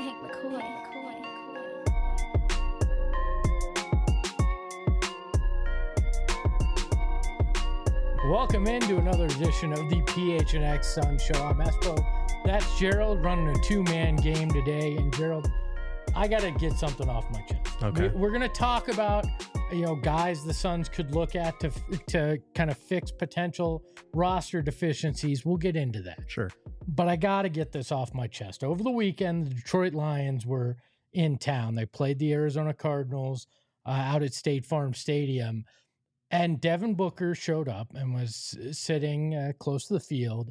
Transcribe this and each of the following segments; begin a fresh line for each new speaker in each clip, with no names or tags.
Hank McCoy.
Welcome into another edition of the PHNX Sun Show. I'm Espo. That's Gerald running a two-man game today. And Gerald, I got to get something off my chest.
Okay.
We're going to talk about, guys the Suns could look at to kind of fix potential roster deficiencies. We'll get into that.
Sure.
But I got to get this off my chest. Over the weekend, the Detroit Lions were in town. They played the Arizona Cardinals out at State Farm Stadium. And Devin Booker showed up and was sitting close to the field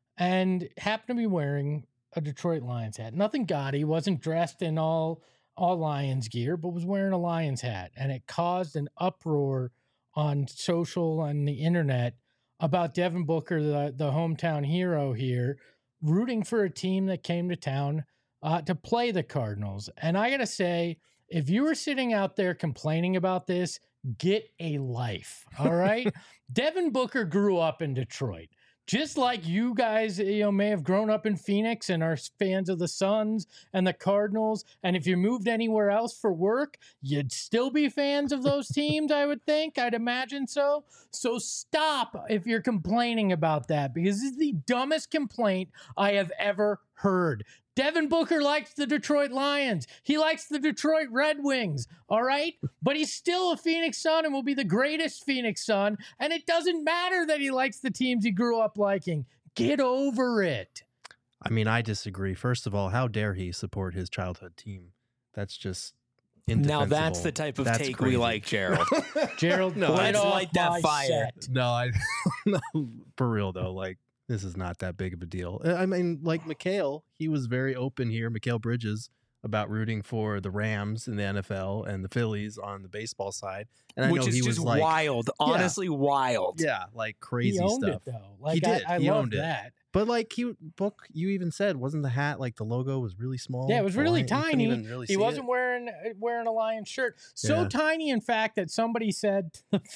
and happened to be wearing a Detroit Lions hat. Nothing gaudy, wasn't dressed in all Lions gear, but was wearing a Lions hat. And it caused an uproar on social and the internet about Devin Booker, the hometown hero here, rooting for a team that came to town to play the Cardinals. And I got to say, if you were sitting out there complaining about this, get a life, all right? Devin Booker grew up in Detroit. Just like you guys, may have grown up in Phoenix and are fans of the Suns and the Cardinals. And if you moved anywhere else for work, you'd still be fans of those teams, I would think. I'd imagine so. So stop if you're complaining about that, because this is the dumbest complaint I have ever heard. Devin Booker likes the Detroit Lions. He likes the Detroit Red Wings, all right? But he's still a Phoenix Sun and will be the greatest Phoenix Sun. And it doesn't matter that he likes the teams he grew up liking. Get over it.
I mean, I disagree. First of all, how dare he support his childhood team? That's just indefensible.
Now that's the type of take
crazy.
we like, Gerald.
Gerald,
No,
let's
light that fire.
No, no, for real though, like, this is not that big of a deal. I mean, like Mikal, he was very open here, Mikal Bridges, about rooting for the Rams in the NFL and the Phillies on the baseball side. And I
Which
know
is
he
just
was like,
wild. Honestly, wild.
yeah, like crazy
he owned
stuff.
it, though. Like,
He did.
I
He
love
owned it.
that.
But like you even said, wasn't the hat like the logo was really small?
Yeah, it was really
You couldn't
tiny.
even really
He
see
wasn't
it.
wearing a Lions shirt. So
Yeah.
tiny, in fact, that somebody said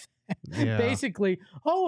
Yeah.
basically,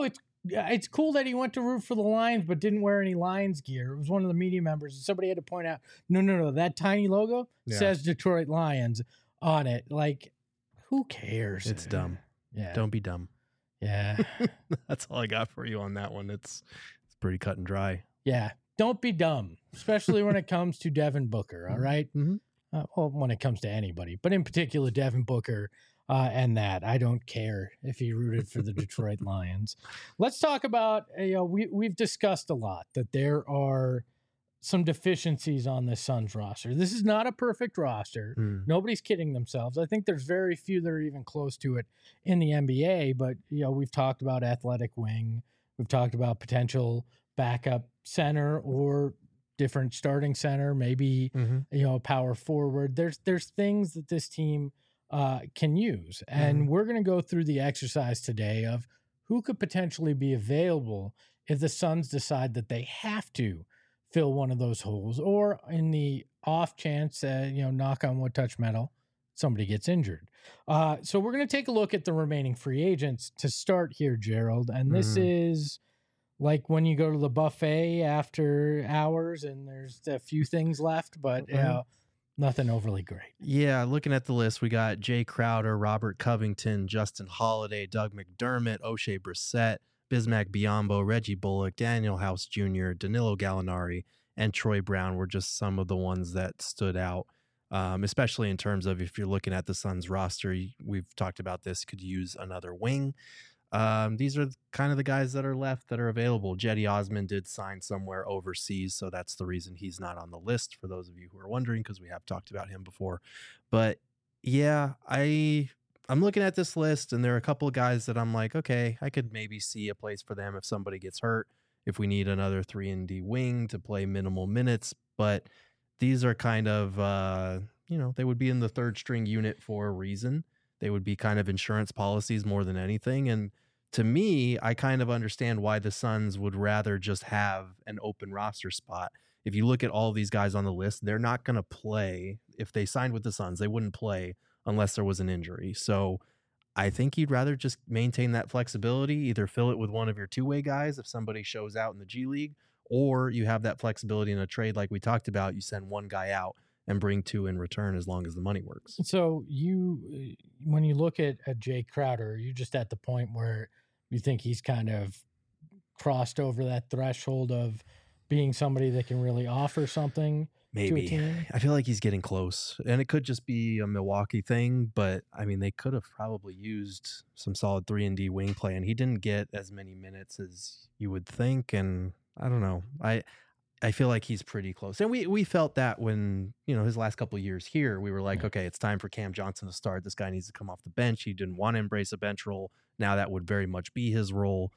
it's cool that he went to root for the Lions but didn't wear any Lions gear. It was one of the media members. Somebody had to point out, no, that tiny logo
Yeah.
says Detroit Lions on it. Like, who cares?
It's dumb.
Yeah.
Don't be dumb.
Yeah.
That's all I got for you on that one. It's pretty cut and dry.
Yeah. Don't be dumb, especially when it comes to Devin Booker, all right?
Mm-hmm.
Well, when it comes to anybody, but in particular, Devin Booker and that. I don't care if he rooted for the Detroit Lions. Let's talk about, we've discussed a lot that there are some deficiencies on the Suns roster. This is not a perfect roster. Nobody's kidding themselves. I think there's very few that are even close to it in the NBA, but, we've talked about athletic wing. We've talked about potential backup center or different starting center, maybe, a power forward. There's things that this team can use. And we're going to go through the exercise today of who could potentially be available if the Suns decide that they have to fill one of those holes, or in the off chance, knock on wood, touch metal, somebody gets injured. So we're going to take a look at the remaining free agents to start here, Gerald. And this is like when you go to the buffet after hours and there's a few things left, but nothing overly great.
Yeah, looking at the list, we got Jay Crowder, Robert Covington, Justin Holiday, Doug McDermott, O'Shea Brissett, Bismack Biyombo, Reggie Bullock, Daniel House Jr., Danilo Gallinari, and Troy Brown were just some of the ones that stood out, especially in terms of if you're looking at the Suns roster. We've talked about this, could use another wing. These are kind of the guys that are left that are available. Jetty Osman did sign somewhere overseas, so that's the reason he's not on the list, for those of you who are wondering, because we have talked about him before. But yeah, I'm looking at this list, and there are a couple of guys that I'm like, okay, I could maybe see a place for them if somebody gets hurt, if we need another 3-and-D wing to play minimal minutes. But these are kind of, they would be in the third string unit for a reason. They would be kind of insurance policies more than anything. And to me, I kind of understand why the Suns would rather just have an open roster spot. If you look at all these guys on the list, they're not going to play. If they signed with the Suns, they wouldn't play unless there was an injury. So I think you'd rather just maintain that flexibility, either fill it with one of your two-way guys if somebody shows out in the G League, or you have that flexibility in a trade like we talked about. You send one guy out and bring 2 in return as long as the money works.
So when you look at Jay Crowder, you're just at the point where you think he's kind of crossed over that threshold of being somebody that can really offer something to a team?
I feel like he's getting close, and it could just be a Milwaukee thing, but I mean, they could have probably used some solid 3-and-D wing play, and he didn't get as many minutes as you would think. And I don't know. I feel like he's pretty close. And we felt that when, his last couple of years here, we were like, okay, it's time for Cam Johnson to start. This guy needs to come off the bench. He didn't want to embrace a bench role. Now that would very much be his role.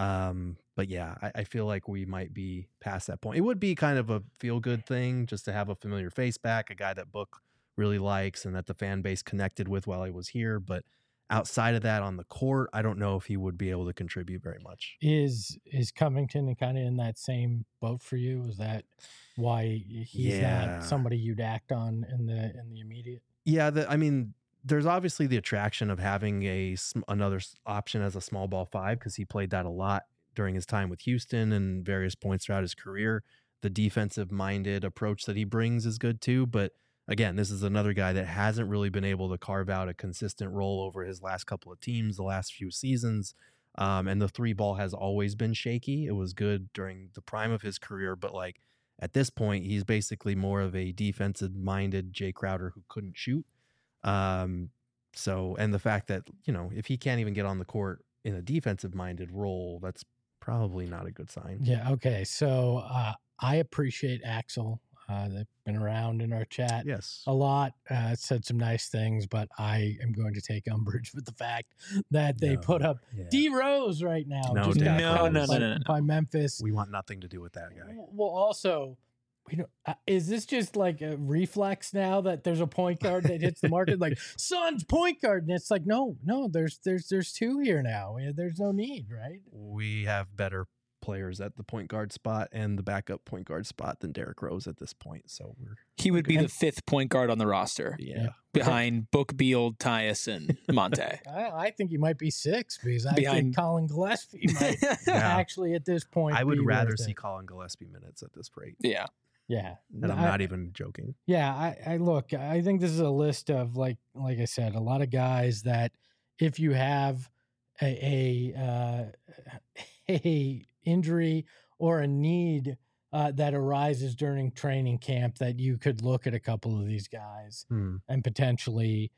But yeah, I feel like we might be past that point. It would be kind of a feel-good thing just to have a familiar face back, a guy that Book really likes and that the fan base connected with while he was here. But outside of that on the court, I don't know if he would be able to contribute very much.
Is Covington kind of in that same boat for you? Is that why he's not somebody you'd act on in the immediate?
Yeah, there's obviously the attraction of having another option as a small ball 5 because he played that a lot during his time with Houston and various points throughout his career. The defensive-minded approach that he brings is good too, but again, this is another guy that hasn't really been able to carve out a consistent role over his last couple of teams, the last few seasons, and the 3-ball has always been shaky. It was good during the prime of his career, but at this point, he's basically more of a defensive-minded Jay Crowder who couldn't shoot. And the fact that, if he can't even get on the court in a defensive minded role, that's probably not a good sign.
Yeah. Okay. So, I appreciate Axel. They've been around in our chat a lot, said some nice things, but I am going to take umbrage with the fact that they put up D Rose right now.
No.
By Memphis.
We want nothing to do with that guy.
Well, also, is this just like a reflex now that there's a point guard that hits the market? Like Suns point guard, and it's like no, there's 2 here now. There's no need, right?
We have better players at the point guard spot and the backup point guard spot than Derrick Rose at this point. So
he would be the 5th point guard on the roster.
Yeah.
Behind Book, Beal, Tyus, and Monte.
I think he might be 6 because I think Colin Gillespie might actually at this point.
I would rather see Colin Gillespie minutes at this rate.
Yeah.
Yeah.
And I'm not even joking.
Yeah. I think this is a list of like I said, a lot of guys that if you have a injury or a need that arises during training camp, that you could look at a couple of these guys and potentially,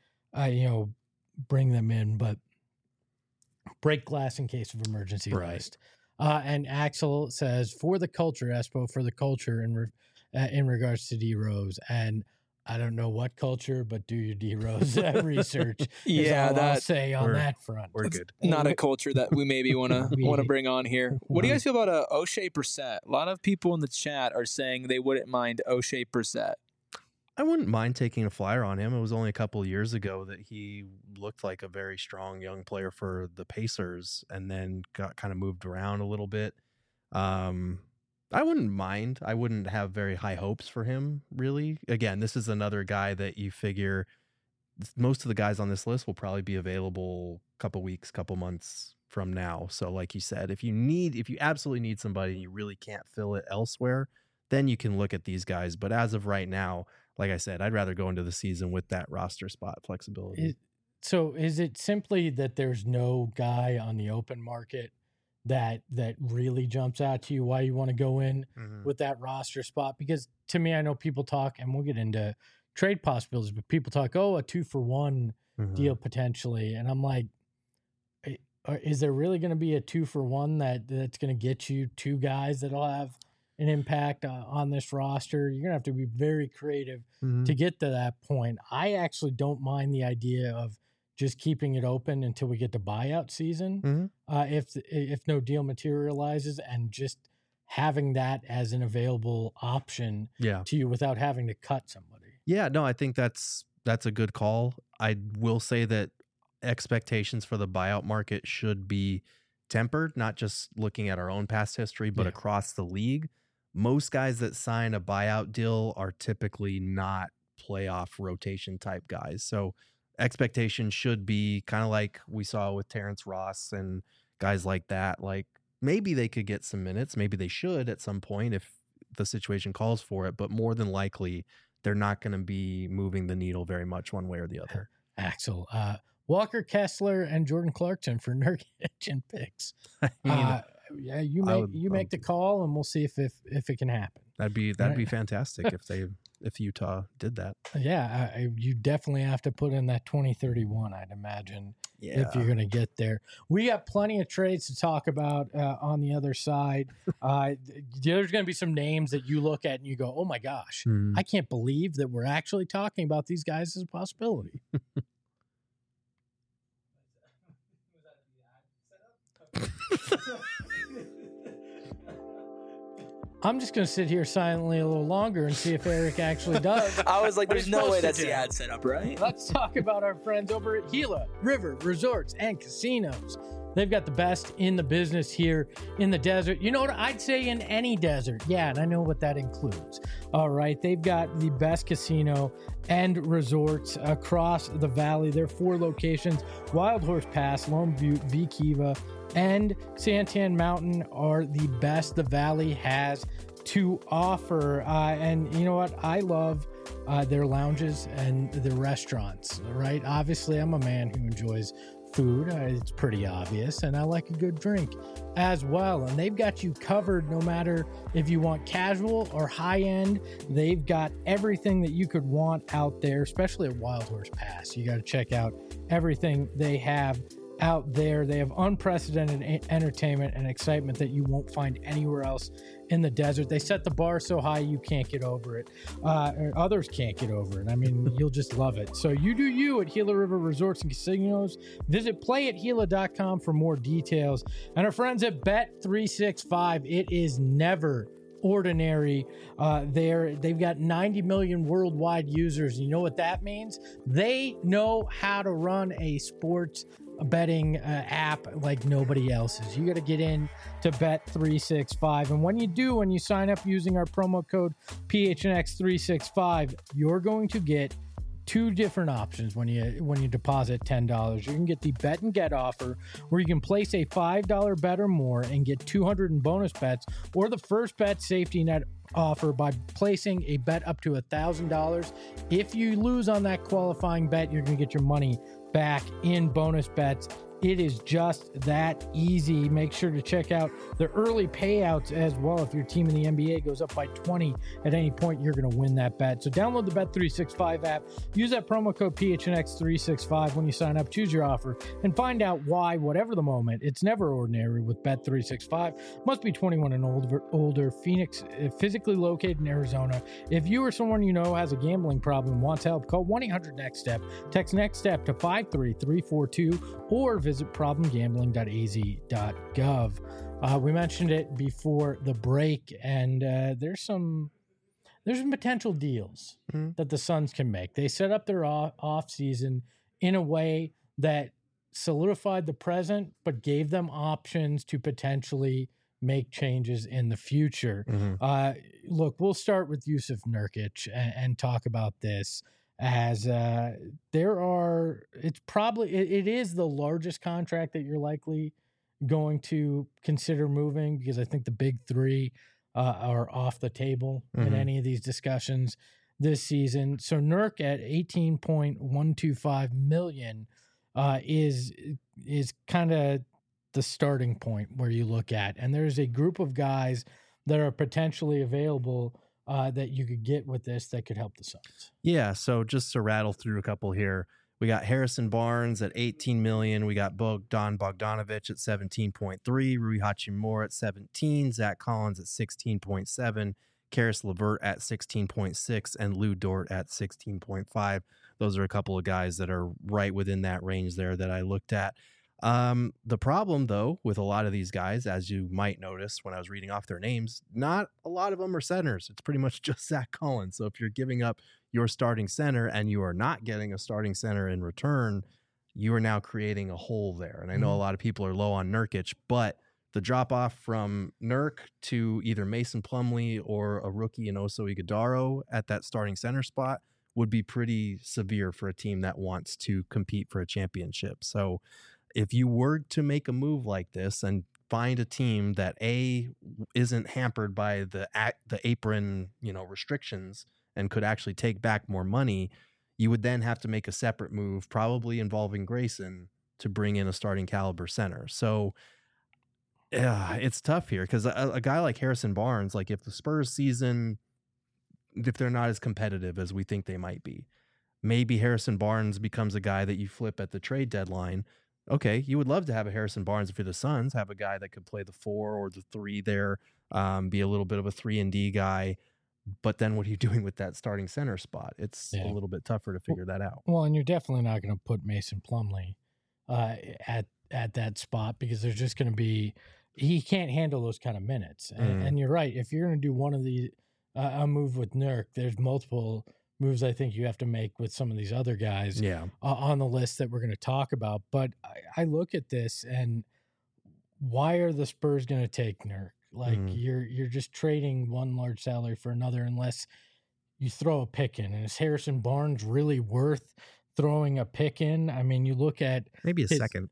bring them in, but break glass in case of emergency list. And Axel says, for the culture, Espo, for the culture in regards to D Rose. And I don't know what culture, but do your D Rose research. I'll say on that front.
We're good.
Not a culture that we maybe want to bring on here. What do you guys feel about O'Shea Brissett? A lot of people in the chat are saying they wouldn't mind O'Shea Brissett.
I wouldn't mind taking a flyer on him. It was only a couple of years ago that he looked like a very strong young player for the Pacers and then got kind of moved around a little bit. I wouldn't mind. I wouldn't have very high hopes for him, really. Again, this is another guy that you figure most of the guys on this list will probably be available a couple weeks, couple months from now. So like you said, if you absolutely need somebody and you really can't fill it elsewhere, then you can look at these guys. But as of right now, like I said, I'd rather go into the season with that roster spot flexibility.
So is it simply that there's no guy on the open market that really jumps out to you why you want to go in with that roster spot? Because to me, I know people talk, and we'll get into trade possibilities, but people talk, a 2-for-1 deal potentially. And I'm like, is there really going to be a 2-for-1 that's going to get you 2 guys that'll have an impact on this roster? You're going to have to be very creative to get to that point. I actually don't mind the idea of just keeping it open until we get to buyout season. If no deal materializes, and just having that as an available option to you without having to cut somebody.
Yeah, no, I think that's a good call. I will say that expectations for the buyout market should be tempered, not just looking at our own past history, but across the league. Most guys that sign a buyout deal are typically not playoff rotation type guys. So expectation should be kind of like we saw with Terrence Ross and guys like that. Like maybe they could get some minutes. Maybe they should at some point if the situation calls for it. But more than likely, they're not going to be moving the needle very much one way or the other.
Axel, Walker Kessler and Jordan Clarkson for Nurkic and picks. Yeah, you make the call, and we'll see if it can happen.
That'd be fantastic if Utah did that.
Yeah, you definitely have to put in that 2031, I'd imagine, if you're going to get there. We got plenty of trades to talk about on the other side. There's going to be some names that you look at and you go, oh my gosh, I can't believe that we're actually talking about these guys as a possibility. I'm just going to sit here silently a little longer and see if Eric actually does.
I was like, there's no way that's the ad setup, right?
Let's talk about our friends over at Gila River Resorts and Casinos. They've got the best in the business here in the desert. You know what? I'd say in any desert. Yeah, and I know what that includes. All right. They've got the best casino and resorts across the valley. There are 4 locations. Wild Horse Pass, Lone Butte, V Kiva, and Santan Mountain are the best the valley has to offer. And you know what? I love their lounges and their restaurants, right? Obviously, I'm a man who enjoys food. It's pretty obvious. And I like a good drink as well. And they've got you covered no matter if you want casual or high end. They've got everything that you could want out there, especially at Wild Horse Pass. You got to check out everything they have out there. They have unprecedented entertainment and excitement that you won't find anywhere else in the desert. They set the bar so high you can't get over it. Or others can't get over it. I mean, you'll just love it. So you do you at Gila River Resorts and Casinos. Visit playathila.com for more details. And our friends at Bet365, it is never ordinary. They've got 90 million worldwide users. You know what that means? They know how to run a sports betting app like nobody else's. You got to get in to Bet365, and when you sign up using our promo code PHNX365, you're going to get 2 different options when you deposit $10. You can get the bet and get offer, where you can place a $5 bet or more and get 200 in bonus bets, or the first bet safety net offer by placing a bet up to $1,000. If you lose on that qualifying bet, you're going to get your money back in bonus bets. It is just that easy. Make sure to check out the early payouts as well. If your team in the NBA goes up by 20 at any point, you're going to win that bet. So download the Bet365 app. Use that promo code PHNX365 when you sign up. Choose your offer and find out why, whatever the moment, it's never ordinary with Bet365. Must be 21 and older. Phoenix, physically located in Arizona. If you or someone you know has a gambling problem and wants help, call 1-800-NEXT-STEP. Text NEXT STEP to 53342 or visit problemgambling.az.gov. We mentioned it before the break, and there's some potential deals that the Suns can make. They set up their off season in a way that solidified the present, but gave them options to potentially make changes in the future. Look, we'll start with Jusuf Nurkic and talk about this. As it is the largest contract that you're likely going to consider moving, because I think the big 3 are off the table in any of these discussions this season. So Nurk at $18.125 million is kind of the starting point where you look at, and there's a group of guys that are potentially available that you could get with this that could help the Suns.
Yeah, so just to rattle through a couple here, we got Harrison Barnes at $18 million. We got Bogdan Bogdanovic at $17.3, Rui Hachimura at $17, Zach Collins at $16.7, Karis LeVert at $16.6, and Lou Dort at $16.5. Those are a couple of guys that are right within that range there that I looked at. The problem, though, with a lot of these guys, as you might notice when I was reading off their names, not a lot of them are centers. It's pretty much just Zach Collins. So if you're giving up your starting center and you are not getting a starting center in return, you are now creating a hole there. And I know a lot of people are low on Nurkic, but the drop off from Nurk to either Mason Plumlee or a rookie in Oso Ighodaro at that starting center spot would be pretty severe for a team that wants to compete for a championship. So if you were to make a move like this and find a team that isn't hampered by the apron, restrictions and could actually take back more money, you would then have to make a separate move, probably involving Grayson, to bring in a starting caliber center. So it's tough here because a guy like Harrison Barnes, like if the Spurs season, if they're not as competitive as we think they might be, maybe Harrison Barnes becomes a guy that you flip at the trade deadline. Okay, you would love to have a Harrison Barnes if you're the Suns, have a guy that could play the 4 or the 3 there, be a little bit of a 3-and-D guy. But then what are you doing with that starting center spot? It's a little bit tougher to figure that out.
Well, and you're definitely not going to put Mason Plumlee at that spot because there's just going to be he can't handle those kind of minutes. And you're right. If you're going to do one of the a move with Nurk, there's multiple moves I think you have to make with some of these other guys on the list that we're going to talk about. But I look at this and why are the Spurs going to take Nurk? Like you're just trading one large salary for another unless you throw a pick in. And is Harrison Barnes really worth throwing a pick in? I mean, you look at
maybe a second.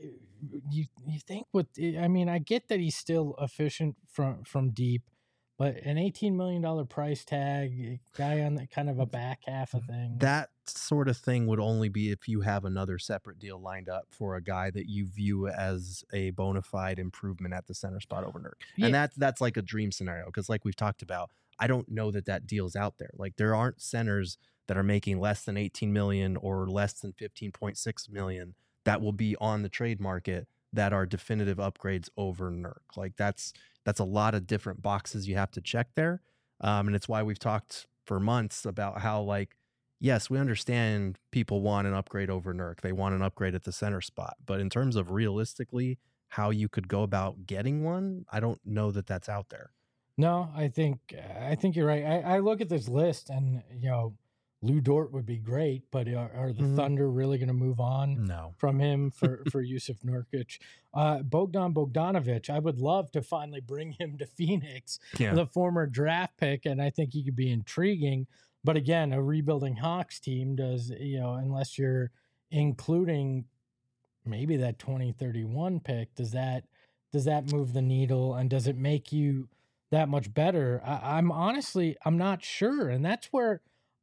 You think I get that he's still efficient from deep, but an $18 million price tag, guy on the kind of a back half of thing.
That sort of thing would only be if you have another separate deal lined up for a guy that you view as a bona fide improvement at the center spot over Nurk. Yeah. And that's like a dream scenario because like we've talked about, I don't know that deal's out there. Like there aren't centers that are making less than 18 million or less than 15.6 million that will be on the trade market that are definitive upgrades over Nurk. Like that's a lot of different boxes you have to check there. And it's why we've talked for months about how, like, yes, we understand people want an upgrade over Nurk. They want an upgrade at the center spot. But in terms of realistically how you could go about getting one, I don't know that that's out there.
No, I think you're right. I look at this list and, Lou Dort would be great, but are the Thunder really going to move on from him for Jusuf Nurkic? Bogdan Bogdanovic, I would love to finally bring him to Phoenix, the former draft pick, and I think he could be intriguing. But again, a rebuilding Hawks team does, unless you're including maybe that 2031 pick, does that move the needle and does it make you that much better? I'm not sure, and that's where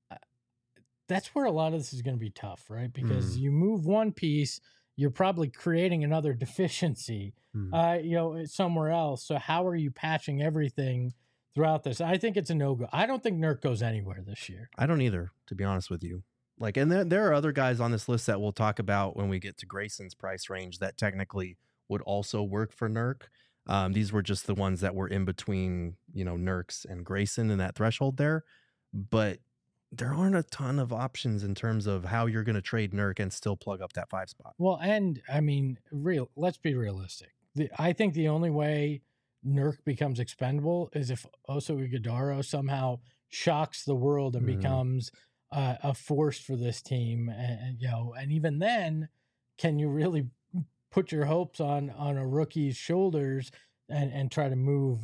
a lot of this is going to be tough, right? Because you move one piece, you're probably creating another deficiency, somewhere else. So how are you patching everything throughout this? I think it's a no-go. I don't think Nurk goes anywhere this year.
I don't either, to be honest with you. Like, and there are other guys on this list that we'll talk about when we get to Grayson's price range that technically would also work for Nurk. These were just the ones that were in between, Nurk's and Grayson in that threshold there. But there aren't a ton of options in terms of how you're going to trade Nurk and still plug up that 5 spot.
Well, and I mean, let's be realistic. I think the only way Nurk becomes expendable is if Oso Ighodaro somehow shocks the world and becomes a force for this team. And even then, can you really put your hopes on a rookie's shoulders and try to move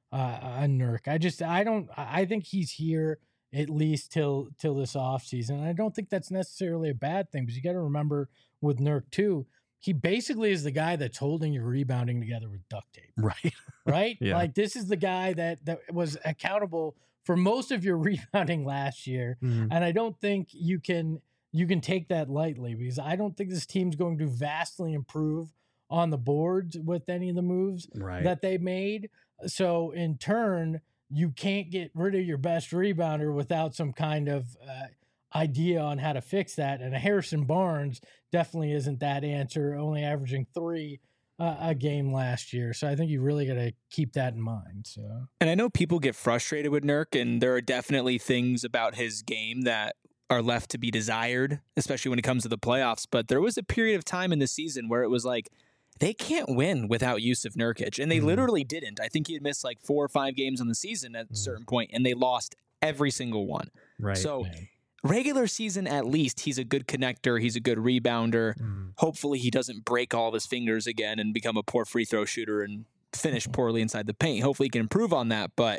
a Nurk? I think he's here at least till this offseason. I don't think that's necessarily a bad thing, because you got to remember with Nurk too, he basically is the guy that's holding your rebounding together with duct tape. Right? Yeah. Like this is the guy that was accountable for most of your rebounding last year. And I don't think you can take that lightly, because I don't think this team's going to vastly improve on the boards with any of the moves that they made. So in turn, you can't get rid of your best rebounder without some kind of idea on how to fix that. And a Harrison Barnes definitely isn't that answer, only averaging 3 a game last year. So I think you really got to keep that in mind. So,
and I know people get frustrated with Nurk, and there are definitely things about his game that are left to be desired, especially when it comes to the playoffs. But there was a period of time in the season where it was like, they can't win without Jusuf Nurkic, and they literally didn't. I think he had missed like 4 or 5 games on the season at a certain point, and they lost every single one.
Right.
So regular season, at least, he's a good connector. He's a good rebounder. Hopefully he doesn't break all of his fingers again and become a poor free throw shooter and finish poorly inside the paint. Hopefully he can improve on that, but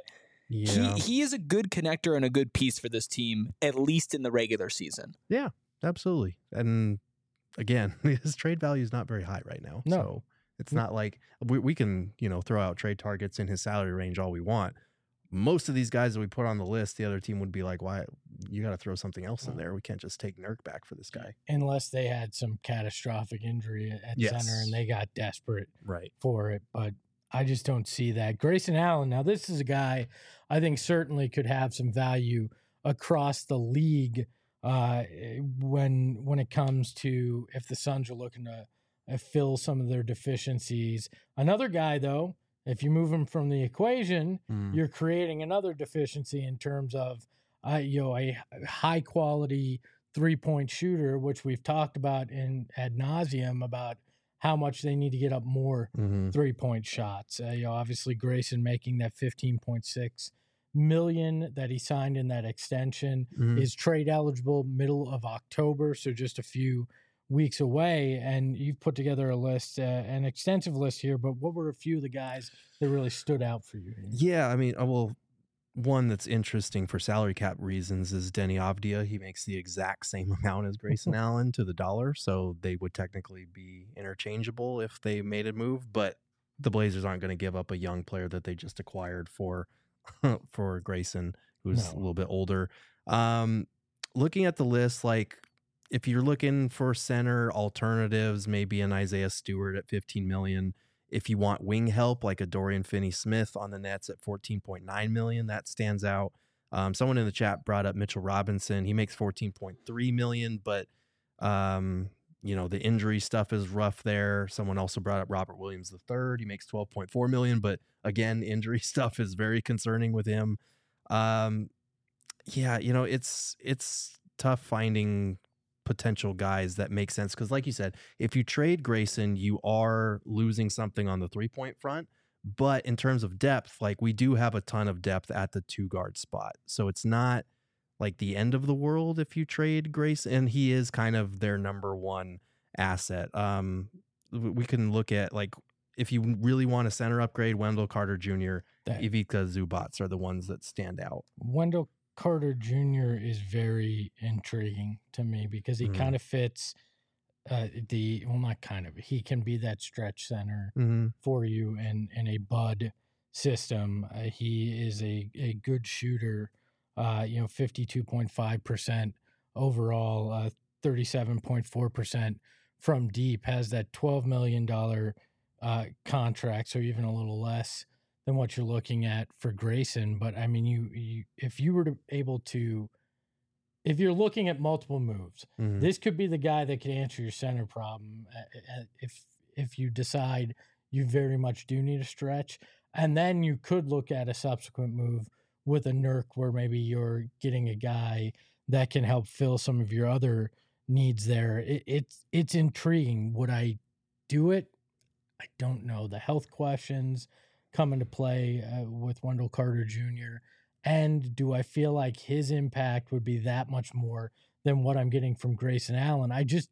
he is a good connector and a good piece for this team, at least in the regular season.
Yeah, absolutely. And again, his trade value is not very high right now. No. So it's not like we can, throw out trade targets in his salary range all we want. most of these guys that we put on the list, the other team would be like, why you got to throw something else in there. We can't just take Nurk back for this guy.
Unless they had some catastrophic injury at center and they got desperate for it. But I just don't see that. Grayson Allen, now this is a guy I think certainly could have some value across the league when it comes to if the Suns are looking to fill some of their deficiencies. Another guy, though, if you move him from the equation, you're creating another deficiency in terms of a high quality 3-point shooter, which we've talked about ad nauseum about how much they need to get up more 3-point shots. Obviously Grayson making that $15.6 million that he signed in that extension is trade eligible middle of October, so just a few weeks away. And you've put together a list, an extensive list here, but what were a few of the guys that really stood out for you?
Yeah, I mean, well, one that's interesting for salary cap reasons is Denny Avdia. He makes the exact same amount as Grayson Allen to the dollar, so they would technically be interchangeable if they made a move, but the Blazers aren't going to give up a young player that they just acquired for Grayson, who's a little bit older. Looking at the list, like if you're looking for center alternatives, maybe an Isaiah Stewart at $15 million. If you want wing help, like a Dorian Finney-Smith on the Nets at $14.9 million, that stands out. Someone in the chat brought up Mitchell Robinson. He makes $14.3 million, but the injury stuff is rough there. Someone also brought up Robert Williams III. He makes $12.4 million, but again, injury stuff is very concerning with him. It's tough finding potential guys that make sense, because like you said, if you trade Grayson, you are losing something on the 3-point front, but in terms of depth, like we do have a ton of depth at the 2-guard spot, so it's not like the end of the world if you trade Grayson, and he is kind of their number one asset. We can look at, like, if you really want a center upgrade, Wendell Carter Jr., Ivica Zubac are the ones that stand out.
Wendell Carter Jr. is very intriguing to me because he kind of fits he can be that stretch center for you in a Bud system. He is a good shooter, 52.5% overall, 37.4% from deep, has that $12 million contract, so even a little less than what you're looking at for Grayson. But I mean, if you're looking at multiple moves, this could be the guy that could answer your center problem if you decide you very much do need a stretch. And then you could look at a subsequent move with a Nurk where maybe you're getting a guy that can help fill some of your other needs there. It's intriguing. Would I do it? I don't know. The health questions come into play with Wendell Carter Jr. And do I feel like his impact would be that much more than what I'm getting from Grayson Allen?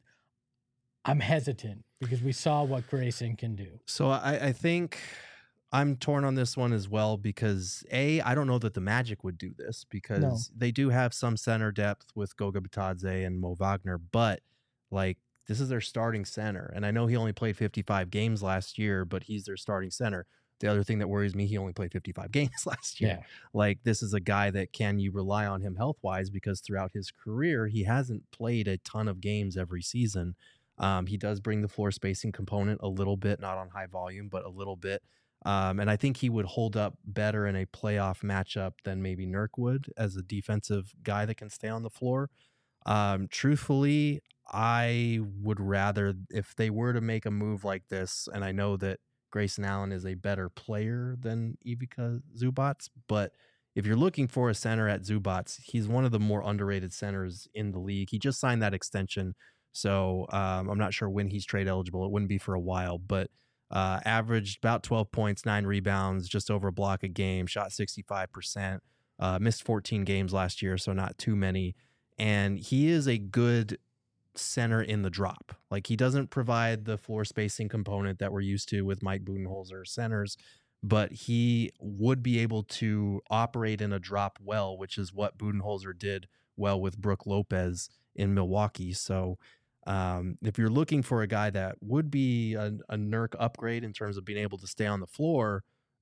I'm hesitant because we saw what Grayson can do.
So I think I'm torn on this one as well because I don't know that the Magic would do this because they do have some center depth with Goga Bitadze and Mo Wagner, but like this is their starting center. And I know he only played 55 games last year, but he's their starting center. The other thing that worries me, he only played 55 games last year. Yeah. Like this is a guy that can you rely on him health-wise because throughout his career, he hasn't played a ton of games every season. He does bring the floor spacing component a little bit, not on high volume, but a little bit. And I think he would hold up better in a playoff matchup than maybe Nurk would as a defensive guy that can stay on the floor. Truthfully, I would rather, if they were to make a move like this, and I know that Grayson Allen is a better player than Ivica Zubac, but if you're looking for a center at Zubac, he's one of the more underrated centers in the league. He just signed that extension, so I'm not sure when he's trade eligible. It wouldn't be for a while, but averaged about 12 points, 9 rebounds, just over a block a game, shot 65%, missed 14 games last year, so not too many. And he is a good center in the drop. Like he doesn't provide the floor spacing component that we're used to with Mike Budenholzer centers, but he would be able to operate in a drop well, which is what Budenholzer did well with Brook Lopez in Milwaukee. So if you're looking for a guy that would be a Nurk upgrade in terms of being able to stay on the floor,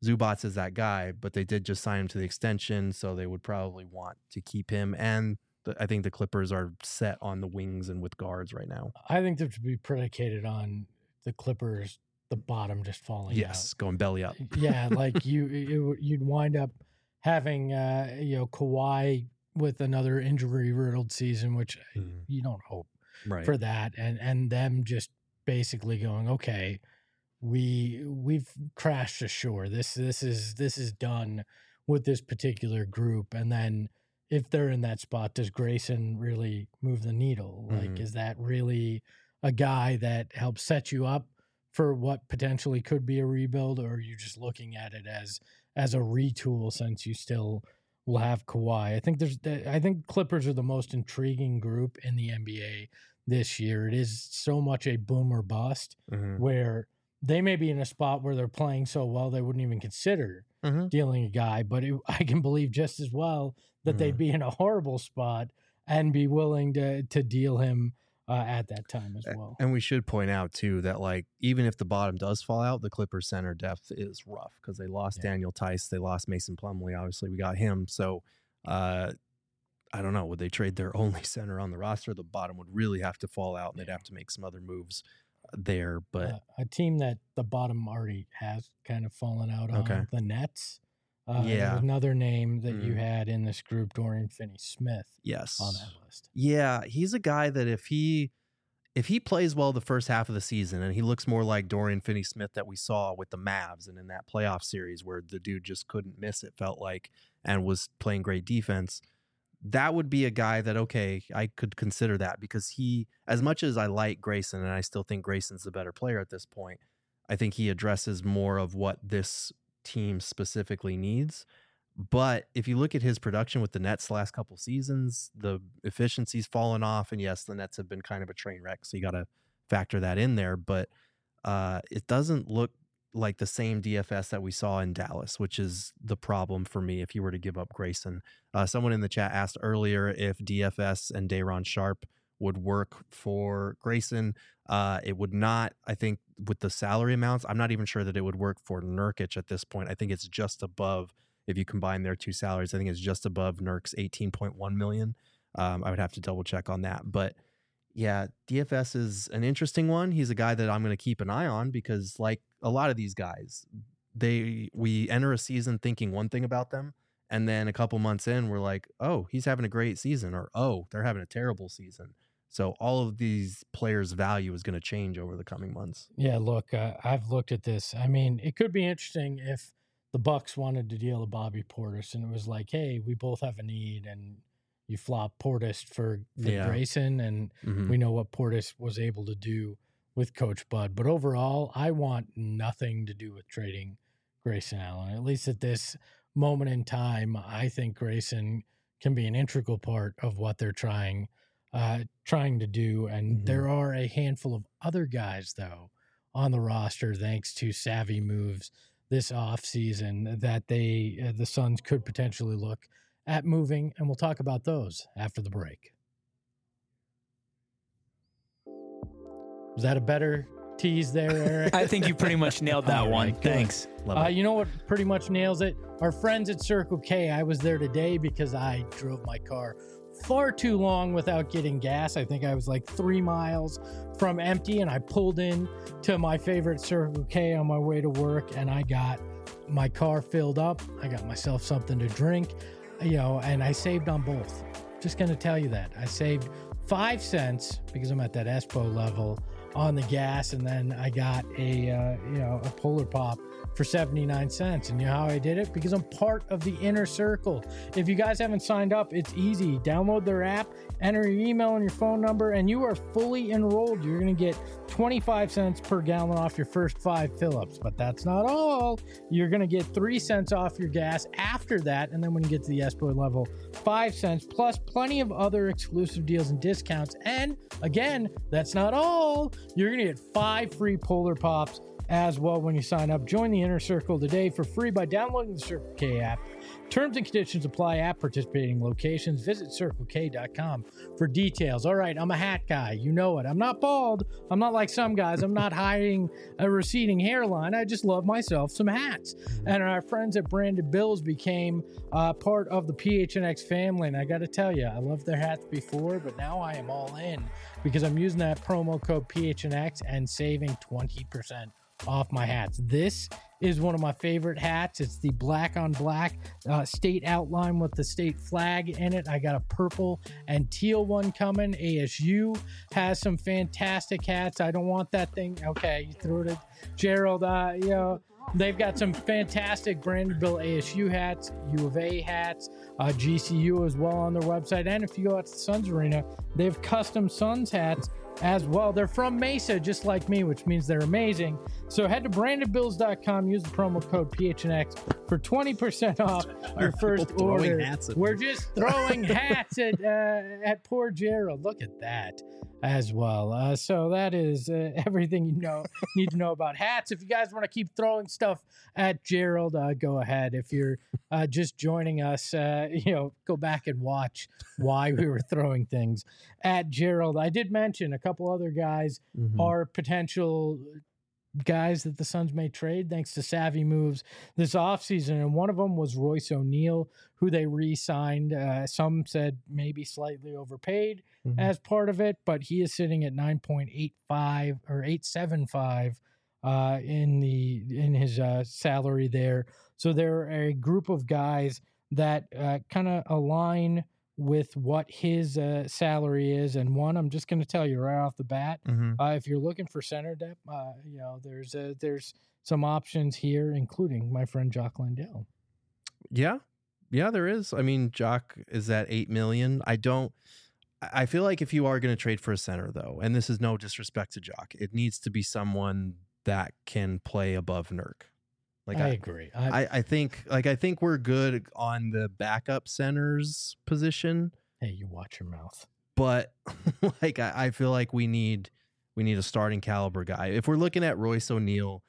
Zubats is that guy, but they did just sign him to the extension, so they would probably want to keep him. And I think the Clippers are set on the wings and with guards right now.
I think that would be predicated on the Clippers, the bottom just falling out.
Going belly up.
Yeah, like you'd wind up having Kawhi with another injury-riddled season, which you don't hope for that, and them just basically going, okay, we've crashed ashore. This is done with this particular group. And then if they're in that spot, does Grayson really move the needle? Like, is that really a guy that helps set you up for what potentially could be a rebuild, or are you just looking at it as a retool since you still will have Kawhi? I think Clippers are the most intriguing group in the NBA this year. It is so much a boom or bust where they may be in a spot where they're playing so well they wouldn't even consider dealing a guy, but I can believe just as well that they'd be in a horrible spot and be willing to deal him at that time as well.
And we should point out too that, like, even if the bottom does fall out, the Clippers center depth is rough because they lost Daniel Tice, they lost Mason Plumlee. Obviously, we got him. So I don't know. Would they trade their only center on the roster? The bottom would really have to fall out, and they'd have to make some other moves there. But
a team that the bottom already has kind of fallen out on, the Nets. Another name that you had in this group, Dorian Finney-Smith.
Yes,
on that list.
Yeah, he's a guy that if he plays well the first half of the season and he looks more like Dorian Finney-Smith that we saw with the Mavs and in that playoff series where the dude just couldn't miss, it felt like, and was playing great defense, that would be a guy that, okay, I could consider that, because he, as much as I like Grayson, and I still think Grayson's the better player at this point, I think he addresses more of what this team specifically needs. But if you look at his production with the Nets the last couple seasons, the efficiency's fallen off, and yes, the Nets have been kind of a train wreck, so you got to factor that in there. But it doesn't look like the same DFS that we saw in Dallas, which is the problem for me if you were to give up Grayson. Someone in the chat asked earlier if DFS and Day'Ron Sharpe would work for Grayson. It would not. I think with the salary amounts, I'm not even sure that it would work for Nurkic at this point. I think it's just above, if you combine their two salaries, I think it's just above Nurk's $18.1 million. I would have to double check on that. But yeah, DFS is an interesting one. He's a guy that I'm going to keep an eye on because, like a lot of these guys, we enter a season thinking one thing about them, and then a couple months in, we're like, oh, he's having a great season, or oh, they're having a terrible season. So all of these players' value is going to change over the coming months.
Yeah, look, I've looked at this. I mean, it could be interesting if the Bucks wanted to deal to Bobby Portis, and it was like, hey, we both have a need, and you flop Portis for Grayson, and we know what Portis was able to do with Coach Bud. But overall, I want nothing to do with trading Grayson Allen. At least at this moment in time, I think Grayson can be an integral part of what they're trying to do. And there are a handful of other guys, though, on the roster, thanks to savvy moves this offseason, that the Suns could potentially look at moving, and we'll talk about those after the break. Was that a better tease there, Eric?
I think you pretty much nailed that one.
Right,
thanks.
You know what pretty much nails it? Our friends at Circle K. I was there today because I drove my car far too long without getting gas. I think I was like 3 miles from empty, and I pulled in to my favorite Circle K on my way to work, and I got my car filled up. I got myself something to drink, and I saved on both. Just going to tell you that. I saved 5 cents because I'm at that Espo level on the gas, and then I got a Polar Pop for 79 cents. And you know how I did it? Because I'm part of the inner circle. If you guys haven't signed up, it's easy. Download their app, enter your email and your phone number, and you are fully enrolled. You're going to get 25 cents per gallon off your first 5 fill-ups. But that's not all. You're going to get 3 cents off your gas after that. And then when you get to the Espo level, 5 cents, plus plenty of other exclusive deals and discounts. And again, that's not all. You're going to get 5 free Polar Pops as well when you sign up. Join the Inner Circle today for free by downloading the Circle K app. Terms and conditions apply at participating locations. Visit CircleK.com for details. All right, I'm a hat guy. You know it. I'm not bald. I'm not like some guys. I'm not hiding a receding hairline. I just love myself some hats. And our friends at Branded Bills became part of the PHNX family. And I got to tell you, I loved their hats before, but now I am all in because I'm using that promo code PHNX and saving 20% off my hats. This is one of my favorite hats. It's the black on black state outline with the state flag in it. I got a purple and teal one coming. ASU has some fantastic hats. I don't want that thing. Okay, you threw it at Gerald. They've got some fantastic Branded Bill ASU hats, U of A hats, GCU as well on their website. And if you go out to the Suns Arena, they have custom Suns hats as well. They're from Mesa, just like me, which means they're amazing. So head to brandedbills.com, use the promo code PHNX for 20% off your first order. We're just throwing hats at poor Gerald. Look at that as well. So that is everything you need to know about hats. If you guys want to keep throwing stuff at Gerald, go ahead. If you're just joining us, go back and watch why we were throwing things at Gerald. I did mention a couple other guys are potential guys that the Suns may trade thanks to savvy moves this offseason. And one of them was Royce O'Neal, who they re-signed. Some said maybe slightly overpaid as part of it, but he is sitting at 9.85 or 875 in his salary there. So they're a group of guys that kind of align with what his salary is. And one, I'm just going to tell you right off the bat, if you're looking for center depth, there's some options here, including my friend Jock Landale.
Yeah, there is. I mean, Jock is at $8 million. I feel like if you are going to trade for a center, though, and this is no disrespect to Jock, it needs to be someone that can play above Nurk.
I agree.
I think we're good on the backup centers position.
Hey, you watch your mouth.
But I feel like we need a starting caliber guy. If we're looking at Royce O'Neal,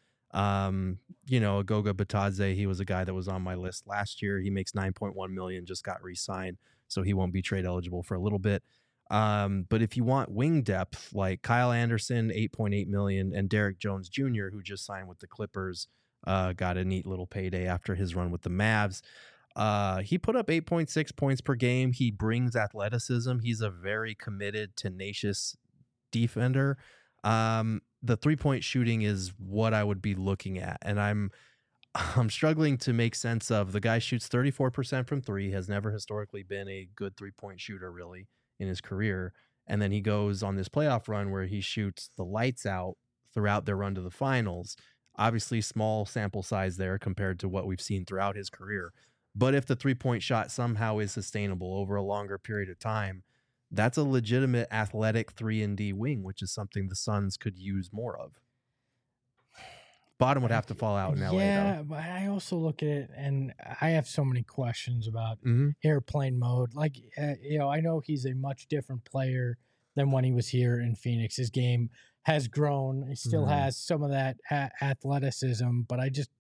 Goga Batadze, he was a guy that was on my list last year. He makes $9.1 million, just got re-signed, so he won't be trade eligible for a little bit. But if you want wing depth, like Kyle Anderson, $8.8 million, and Derek Jones Jr., who just signed with the Clippers, got a neat little payday after his run with the Mavs. He put up 8.6 points per game. He brings athleticism. He's a very committed, tenacious defender. The 3-point shooting is what I would be looking at. And I'm struggling to make sense of. The guy shoots 34% from three, has never historically been a good 3-point shooter really in his career. And then he goes on this playoff run where he shoots the lights out throughout their run to the finals. Obviously, small sample size there compared to what we've seen throughout his career. But if the 3-point shot somehow is sustainable over a longer period of time, that's a legitimate athletic 3-and-D wing, which is something the Suns could use more of. Bottom would have to fall out in LA.
Yeah, but I also look at it, and I have so many questions about airplane mode. I know he's a much different player than when he was here in Phoenix. His game has grown. He still has some of that athleticism, but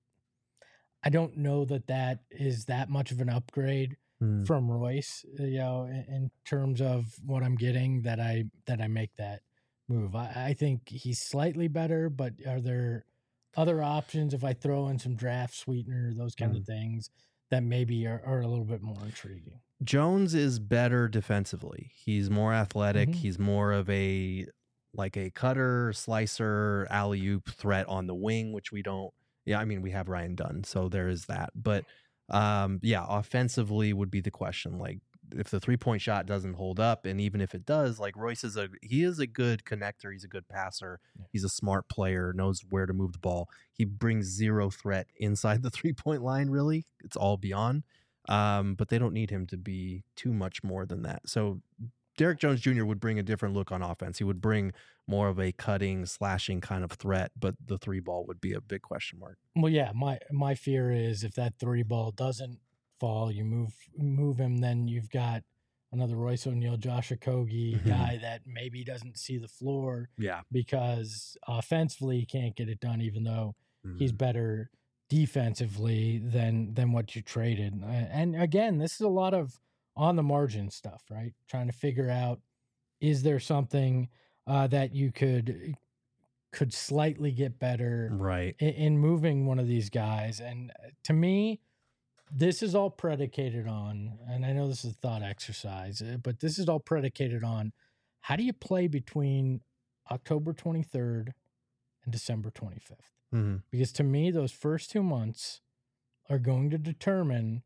I don't know that is that much of an upgrade from Royce, in terms of what I'm getting that I make that move. I think he's slightly better, but are there other options if I throw in some draft sweetener, those kind of things that maybe are a little bit more intriguing?
Jones is better defensively. He's more athletic. He's more of a cutter, slicer, alley-oop threat on the wing, which we don't. Yeah, I mean, we have Ryan Dunn, so there is that. But offensively would be the question. Like, if the 3-point shot doesn't hold up, and even if it does, like, Royce is a good connector. He's a good passer. Yeah. He's a smart player, knows where to move the ball. He brings zero threat inside the 3-point line, really. It's all beyond. But they don't need him to be too much more than that. So Derek Jones Jr. would bring a different look on offense. He would bring more of a cutting, slashing kind of threat, but the 3-ball would be a big question mark.
Well, yeah, my fear is if that 3-ball doesn't fall, you move him, then you've got another Royce O'Neal, Josh Okogie guy that maybe doesn't see the floor
Yeah.
because offensively he can't get it done, even though he's better defensively than what you traded. And again, this is a lot of on the margin stuff, right? Trying to figure out, is there something that you could slightly get better
Right.
in moving one of these guys? And to me, this is all predicated on, and I know this is a thought exercise, but this is all predicated on, how do you play between October 23rd and December 25th? Because to me, those first 2 months are going to determine,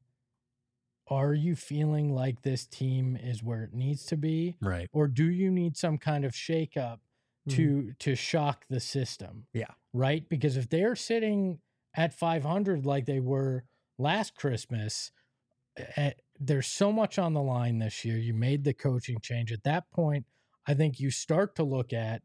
are you feeling like this team is where it needs to be?
Right.
Or do you need some kind of shakeup to shock the system?
Yeah.
Right? Because if they're sitting at 500 like they were last Christmas, there's so much on the line this year. You made the coaching change. At that point, I think you start to look at,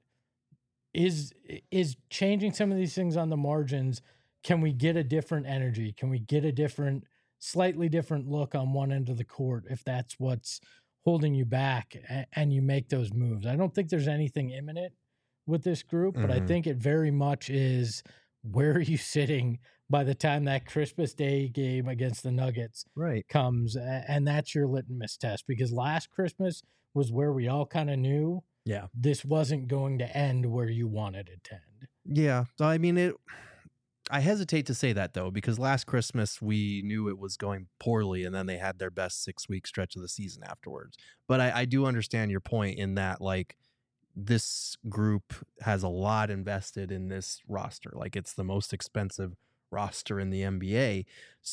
is changing some of these things on the margins. Can we get a different energy? Can we get a slightly different look on one end of the court if that's what's holding you back, and you make those moves? I don't think there's anything imminent with this group, but I think it very much is, where are you sitting by the time that Christmas Day game against the Nuggets comes? And that's your litmus test, because last Christmas was where we all kind of knew this wasn't going to end where you wanted it to end.
Yeah. I mean, I hesitate to say that, though, because last Christmas we knew it was going poorly, and then they had their best 6-week stretch of the season afterwards. But I do understand your point in that, like, this group has a lot invested in this roster. Like, it's the most expensive roster in the NBA.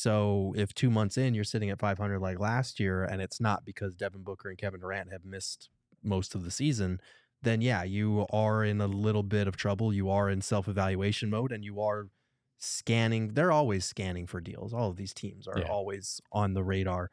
So if 2 months in you're sitting at 500 like last year, and it's not because Devin Booker and Kevin Durant have missed most of the season, then yeah, you are in a little bit of trouble. You are in self-evaluation mode, and you are scanning. They're always scanning for deals. All of these teams are always on the radar.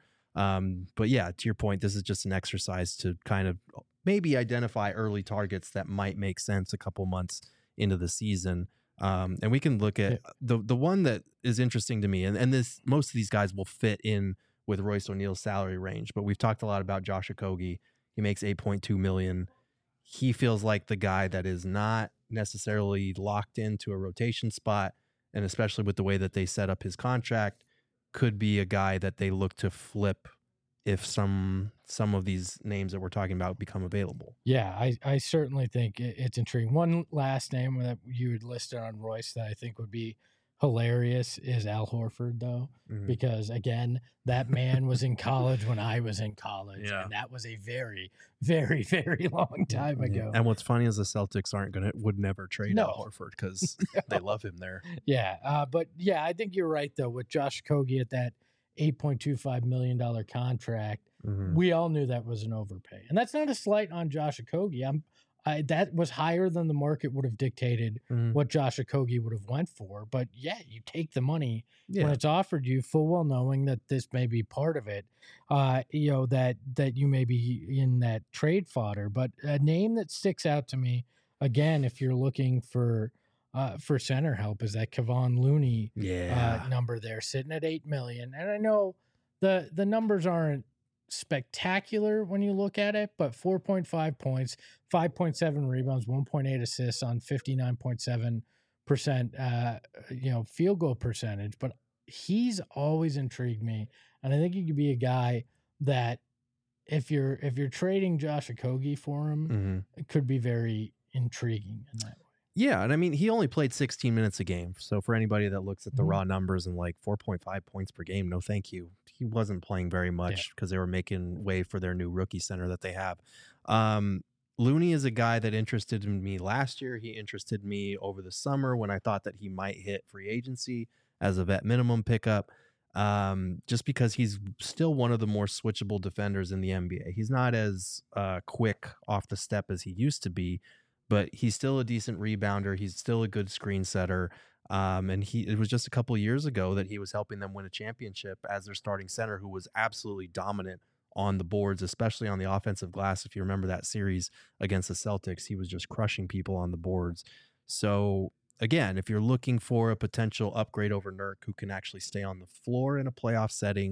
But yeah, to your point, this is just an exercise to kind of maybe identify early targets that might make sense a couple months into the season. And we can look at the one that is interesting to me, and this, most of these guys will fit in with Royce O'Neal's salary range, but we've talked a lot about Josh Okogie. He makes $8.2 million. He feels like the guy that is not necessarily locked into a rotation spot, and especially with the way that they set up his contract, could be a guy that they look to flip if some of these names that we're talking about become available.
Yeah, I certainly think it's intriguing. One last name that you would listed on Royce that I think would be hilarious is Al Horford, though, because again, that man was in college when I was in college, and that was a very, very, very long time ago.
And what's funny is the Celtics would never trade Al Horford because they love him there.
Yeah, but yeah, I think you're right though, with Josh Okogie at that $8.25 million contract. We all knew that was an overpay, and that's not a slight on Josh Okogie. That was higher than the market would have dictated what Josh Okogie would have went for. But yeah, you take the money when it's offered you, full well knowing that this may be part of it. That you may be in that trade fodder. But a name that sticks out to me, again, if you're looking for center help, is that Kevon Looney number there, sitting at $8 million. And I know the numbers aren't spectacular when you look at it, but 4.5 points, 5.7 rebounds, 1.8 assists on 59.7% field goal percentage. But he's always intrigued me, and I think he could be a guy that if you're trading Josh Okogie for him, it could be very intriguing in that way.
Yeah, and I mean, he only played 16 minutes a game. So for anybody that looks at the raw numbers and like 4.5 points per game, no thank you. He wasn't playing very much because they were making way for their new rookie center that they have. Looney is a guy that interested in me last year. He interested me over the summer when I thought that he might hit free agency as a vet minimum pickup, just because he's still one of the more switchable defenders in the NBA. He's not as quick off the step as he used to be, but he's still a decent rebounder. He's still a good screen setter. And it was just a couple of years ago that he was helping them win a championship as their starting center, who was absolutely dominant on the boards, especially on the offensive glass. If you remember that series against the Celtics, he was just crushing people on the boards. So again, if you're looking for a potential upgrade over Nurk, who can actually stay on the floor in a playoff setting,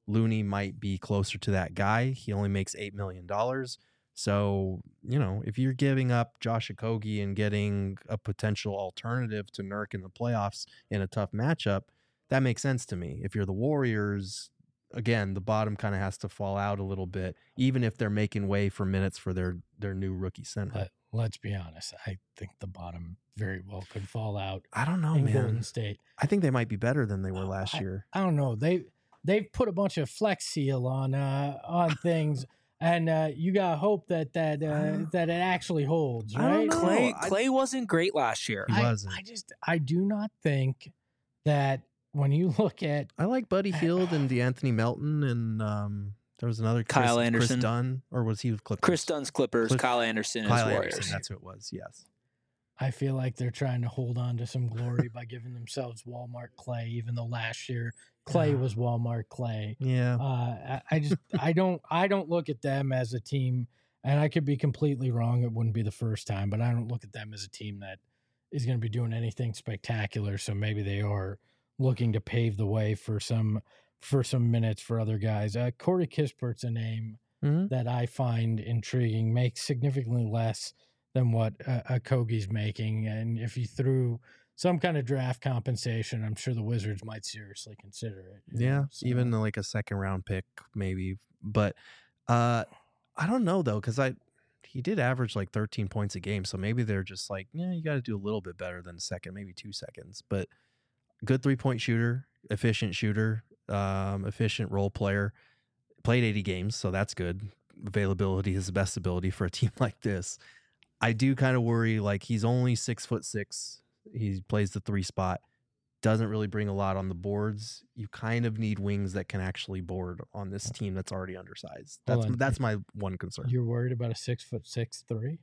Looney might be closer to that guy. He only makes $8 million. So, if you're giving up Josh Okogie and getting a potential alternative to Nurk in the playoffs in a tough matchup, that makes sense to me. If you're the Warriors, again, the bottom kind of has to fall out a little bit, even if they're making way for minutes for their new rookie center.
Let's be honest. I think the bottom very well could fall out.
I don't know,
in
man.
Golden State.
I think they might be better than they were last year.
I don't know. They've put a bunch of Flex Seal on things. And you got hope that it actually holds, right?
Clay wasn't great last year.
He wasn't.
I do not think that when you look at,
I like Buddy Hield and DeAnthony Melton, and there was another
Kyle Anderson.
Chris Dunn, or was he with Clippers?
Chris Dunn's Clippers. Kyle Anderson is Warriors.
Anderson, that's who it was. Yes.
I feel like they're trying to hold on to some glory by giving themselves Walmart Clay, even though last year Clay was Walmart Clay.
Yeah.
I don't look at them as a team, and I could be completely wrong. It wouldn't be the first time, but I don't look at them as a team that is going to be doing anything spectacular. So maybe they are looking to pave the way for some minutes for other guys. Corey Kispert's a name that I find intriguing, makes significantly less than what Okogie's making. And if you threw some kind of draft compensation, I'm sure the Wizards might seriously consider it.
Yeah, so. Even like a second round pick maybe. But I don't know, though, because he did average like 13 points a game. So maybe they're just like, you got to do a little bit better than a second, maybe 2 seconds. But good 3-point shooter, efficient role player. Played 80 games, so that's good. Availability is the best ability for a team like this. I do kind of worry, like, he's only 6'6". He plays the 3 spot. Doesn't really bring a lot on the boards. You kind of need wings that can actually board on this team that's already undersized. That's my one concern.
You're worried about a 6'6" 3?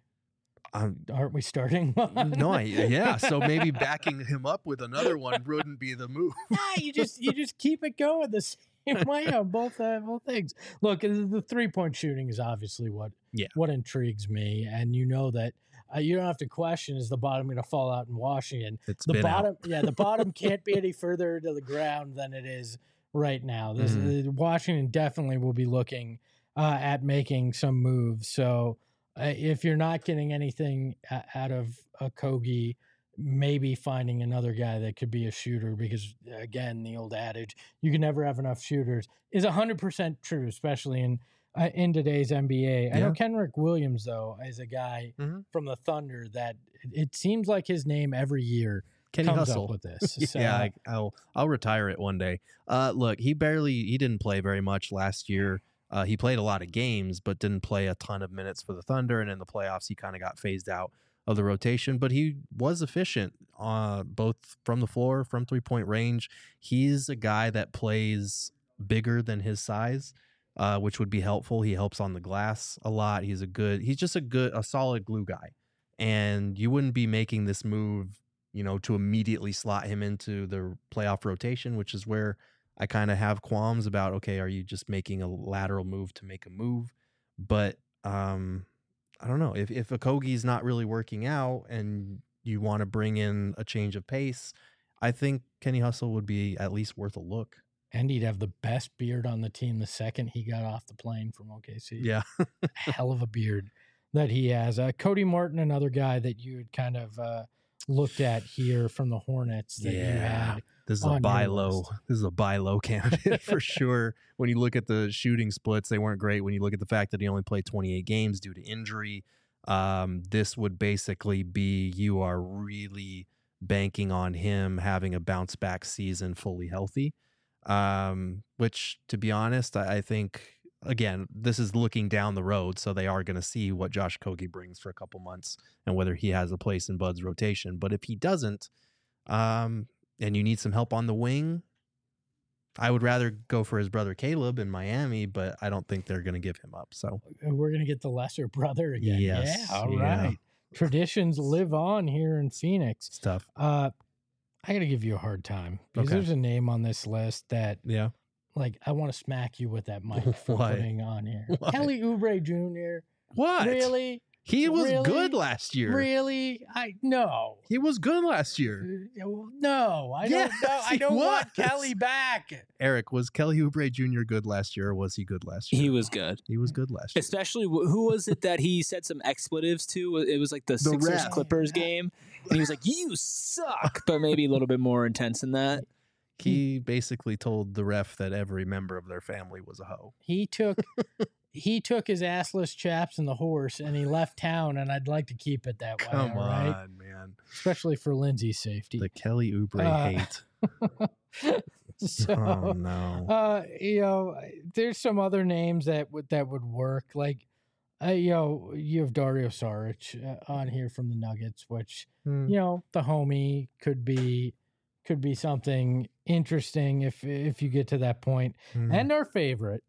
Aren't we starting?
No, yeah. So maybe backing him up with another one wouldn't be the move.
You just keep it going the same way on both things. Look, the 3-point shooting is obviously what intrigues me, and that you don't have to question, is the bottom going to fall out in Washington? The bottom can't be any further to the ground than it is right now. Washington definitely will be looking at making some moves. So if you're not getting anything out of Okogie, maybe finding another guy that could be a shooter, because again, the old adage, you can never have enough shooters, is 100% true, especially in today's NBA. Yeah. I know Kenrick Williams, though, is a guy from the Thunder that it seems like his name every year
Kenny
comes
Hustle.
up with this. So,
yeah, I'll retire it one day. Look, he didn't play very much last year. He played a lot of games, but didn't play a ton of minutes for the Thunder. And in the playoffs, he kind of got phased out of the rotation. But he was efficient, both from the floor, from 3-point range. He's a guy that plays bigger than his size, which would be helpful. He helps on the glass a lot. He's just a solid glue guy. And you wouldn't be making this move, to immediately slot him into the playoff rotation, which is where I kind of have qualms about, okay, are you just making a lateral move to make a move? But I don't know. If Okogie's not really working out and you want to bring in a change of pace, I think Kenny Hustle would be at least worth a look.
And he'd have the best beard on the team the second he got off the plane from OKC.
Yeah.
Hell of a beard that he has. Cody Martin, another guy that you had kind of looked at here from the Hornets that you had.
This is a buy low. This is a buy low candidate for sure. When you look at the shooting splits, they weren't great. When you look at the fact that he only played 28 games due to injury, this would basically be, you are really banking on him having a bounce back season fully healthy. Which, to be honest, I think, again, this is looking down the road, so they are going to see what Josh Okogie brings for a couple months and whether he has a place in Bud's rotation. But if he doesn't, and you need some help on the wing, I would rather go for his brother Caleb in Miami, but I don't think they're going to give him up. So
we're going to get the lesser brother again.
Yes.
Yeah, all right. Traditions live on here in Phoenix.
It's tough.
I got to give you a hard time because there's a name on this list that, like, I want to smack you with that mic for putting on here.
What?
Kelly Oubre Jr.
What?
Really?
He was
Really?
good last year.
Really? No.
He was good last year.
No, I don't know. I
Yes,
don't
he
want
was.
Kelly back.
Eric, was Kelly Oubre Jr. good last year, or was he good last year?
He was good.
He was good last year.
Especially, who was it that he said some expletives to? It was like the Sixers
ref.
Clippers game. And he was like, "You suck," but maybe a little bit more intense than that.
He basically told the ref that every member of their family was a hoe.
He took his assless chaps and the horse, and he left town. And I'd like to keep it that way.
Come
all
on,
right?
man.
Especially for Lindsay's safety.
The Kelly Oubre hate.
So,
Oh no.
there's some other names that would work. Like, you have Dario Saric on here from the Nuggets, which the homie could be something interesting if you get to that point. And our favorite,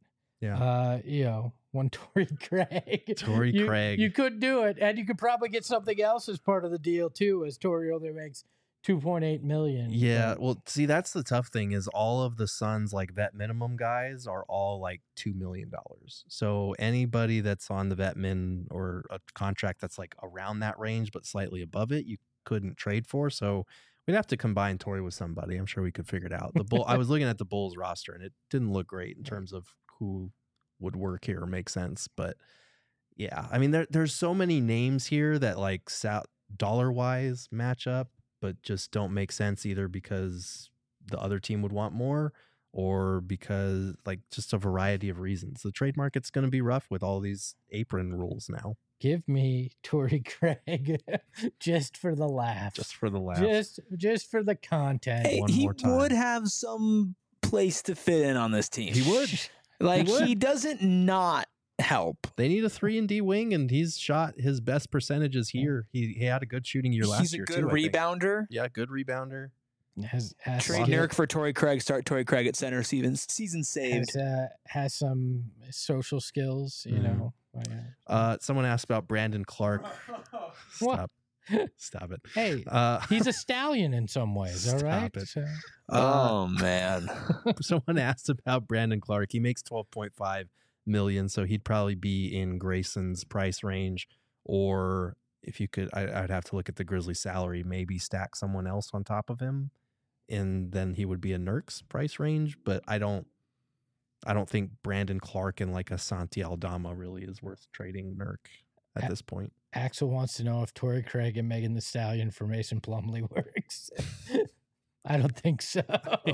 one Torrey Craig.
Torrey Craig.
You could do it, and you could probably get something else as part of the deal too, as Torrey only makes $2.8 million.
Yeah, well, see, that's the tough thing is all of the Suns like vet minimum guys are all like $2 million. So anybody that's on the vet min or a contract that's like around that range but slightly above it, you couldn't trade for. So we'd have to combine Torrey with somebody. I'm sure we could figure it out. I was looking at the Bulls roster and it didn't look great in terms of who would work here or make sense. But yeah, I mean, there's so many names here that like dollar wise match up, but just don't make sense either because the other team would want more or because like just a variety of reasons. The trade market's going to be rough with all these apron rules now.
Give me Torrey Craig just for the laugh.
Just for the laugh.
Just for the content.
Hey,
One
he
more time.
would have some place to fit in on this team.
He would.
Like,
He would.
he doesn't not help.
They need a 3-and-D wing, and he's shot his best percentages here. He had a good shooting year last
He's a
year,
good
too, I think.
rebounder.
Yeah, good rebounder.
Has
Trade
skill-
Nurk for Torrey Craig. Start Torrey Craig at center. Season saved.
has some social skills, you know.
Someone asked about Brandon Clark.
What?
Stop it.
Hey, he's a stallion in some ways, all right?
Stop it.
So,
Oh man.
Someone asked about Brandon Clark. He makes $12.5 million, so he'd probably be in Grayson's price range. Or if you could, I'd have to look at the Grizzlies' salary, maybe stack someone else on top of him, and then he would be in Nurk's price range. But I don't think Brandon Clark and like a Santi Aldama really is worth trading Nurk at this point.
Axel wants to know if Torrey Craig and Megan Thee Stallion for Mason Plumlee works. I don't think so.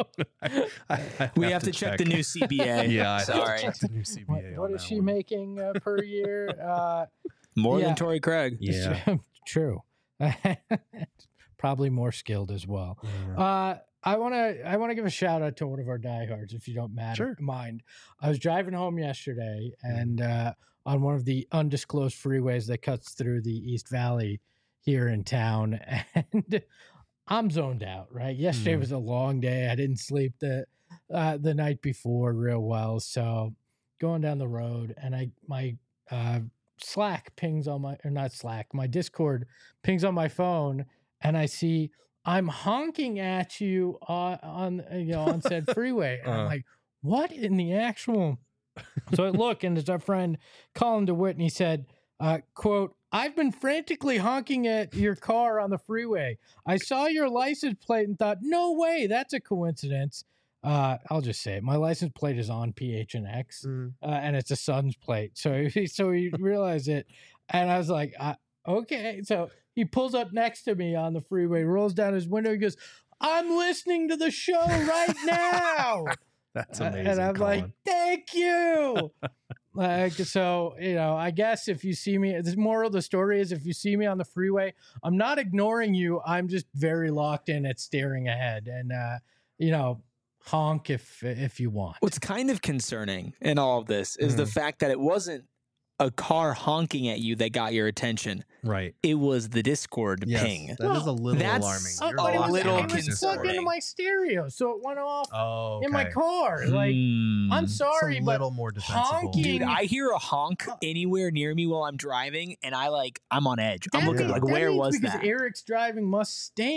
We have to check the new CBA.
Yeah, I
sorry.
have to check the new CBA.
What
on
is
that
she
one.
making per year?
More
Yeah.
than Torrey Craig.
Yeah.
True. Probably more skilled as well.
Yeah.
I want to give a shout out to one of our diehards, if you don't mind. I was driving home yesterday, and on one of the undisclosed freeways that cuts through the East Valley here in town, and I'm zoned out. Right, yesterday was a long day. I didn't sleep the night before real well, so going down the road, and my Slack pings on my Discord pings on my phone, and I see I'm honking at you on said freeway. And I'm like, what in the actual? So I look, and it's our friend Colin DeWitt, and he said, quote, "I've been frantically honking at your car on the freeway. I saw your license plate and thought, no way, that's a coincidence." I'll just say it. My license plate is on PHNX, and it's a Suns plate. So he realized it, and I was like, okay. So he pulls up next to me on the freeway, rolls down his window, he goes, "I'm listening to the show right now."
That's amazing.
And I'm
Colin.
like, "Thank you." So, I guess if you see me, the moral of the story is if you see me on the freeway, I'm not ignoring you. I'm just very locked in at staring ahead, and honk if you want.
What's kind of concerning in all of this is the fact that it wasn't a car honking at you that got your attention.
Right.
It was the Discord
Yes,
ping.
that is a little
that's
alarming.
a
You're
But it was,
little
it was plugged into
concerning.
my stereo, so it went off
Oh,
in my car. Like, I'm
It's
sorry,
a
but
little more defensible.
honking-
Dude, I hear a honk anywhere near me while I'm driving, and I'm on edge. I'm looking like,
that
where
means
was
because
that?
Eric's driving must stink.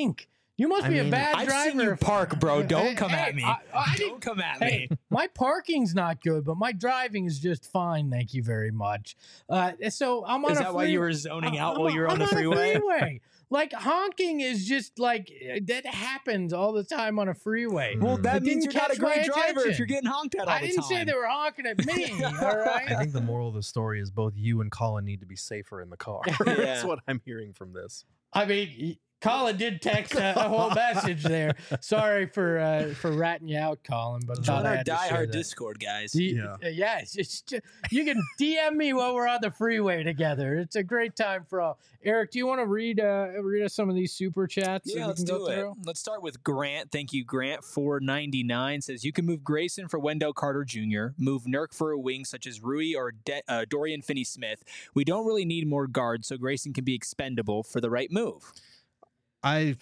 You must be a bad
I've
driver.
seen you park, bro. Don't come at me.
I
Don't come at
Hey,
me.
my parking's not good, but my driving is just fine. Thank you very much. So I'm on
Is
a
that why you were zoning out while you were on the
I'm
freeway?
a freeway. Like honking is just like that happens all the time on a freeway.
Well, that
It
means
didn't
you're not a
catch my
great driver if
attention.
you're getting honked at all
I
the
didn't
time.
say they were honking at me. All
I
right.
think the moral of the story is both you and Colin need to be safer in the car. That's
Yeah.
what I'm hearing from this.
I mean, Colin did text a whole message there. Sorry for ratting you out, Colin, but
Join
thought I
our
had to share
diehard
that.
Discord, guys.
Yeah.
Yes, you can DM me while we're on the freeway together. It's a great time for all. Eric, do you want to read us some of these super chats?
Yeah,
that we
let's
can
do
go
it.
through?
Let's start with Grant. Thank you, Grant. 499 says you can move Grayson for Wendell Carter Jr., move Nurk for a wing such as Rui or Dorian Finney-Smith. We don't really need more guards, so Grayson can be expendable for the right move.
I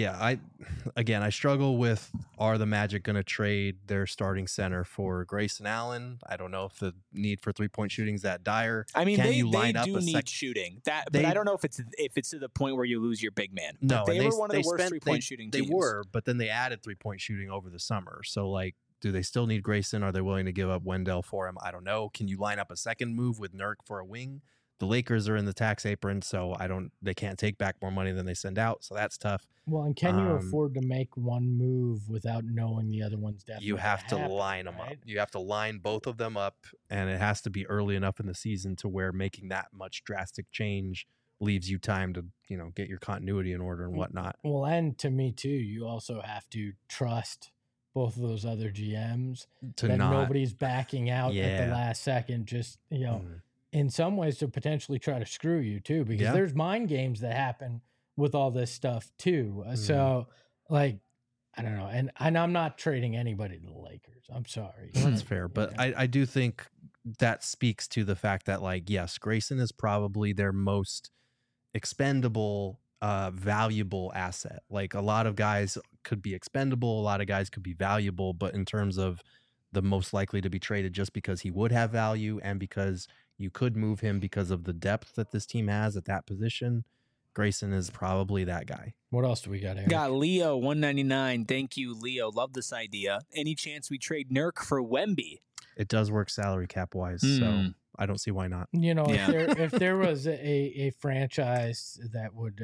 struggle with, are the Magic going to trade their starting center for Grayson Allen? I don't know if the need for 3-point shooting is that dire.
I mean,
Can
they
you line up
do
a
need shooting. But
They-
I don't know if it's to the point where you lose your big man.
No,
But they
and
were one of the worst
spent-
3-point shooting
They
teams.
were, but then they added 3-point shooting over the summer. So, like, do they still need Grayson? Are they willing to give up Wendell for him? I don't know. Can you line up a second move with Nurk for a wing? The Lakers are in the tax apron, so they can't take back more money than they send out. So that's tough.
Well, and can you afford to make one move without knowing the other one's definitely
You have to
gonna happen,
line them
right?
up. You have to line both of them up, and it has to be early enough in the season to where making that much drastic change leaves you time to, get your continuity in order and whatnot.
Well, and to me too, you also have to trust both of those other GMs
To
that
not
nobody's backing out at
Yeah.
the last second. Just
Mm.
in some ways to potentially try to screw you too, because
Yeah.
there's mind games that happen with all this stuff too.
Mm-hmm.
So, like, I don't know, and I'm not trading anybody to the Lakers. I'm sorry.
That's fair, but
Yeah.
I do think that speaks to the fact that, like, yes, Grayson is probably their most expendable, valuable asset. Like, a lot of guys could be expendable, a lot of guys could be valuable, but in terms of the most likely to be traded just because he would have value and because you could move him because of the depth that this team has at that position, Grayson is probably that guy.
What else do we got here?
Got Leo 199. Thank you, Leo. Love this idea. Any chance we trade Nurk for Wemby?
It does work salary cap wise, so
Mm.
I don't see why not.
Yeah.
If there was a franchise that would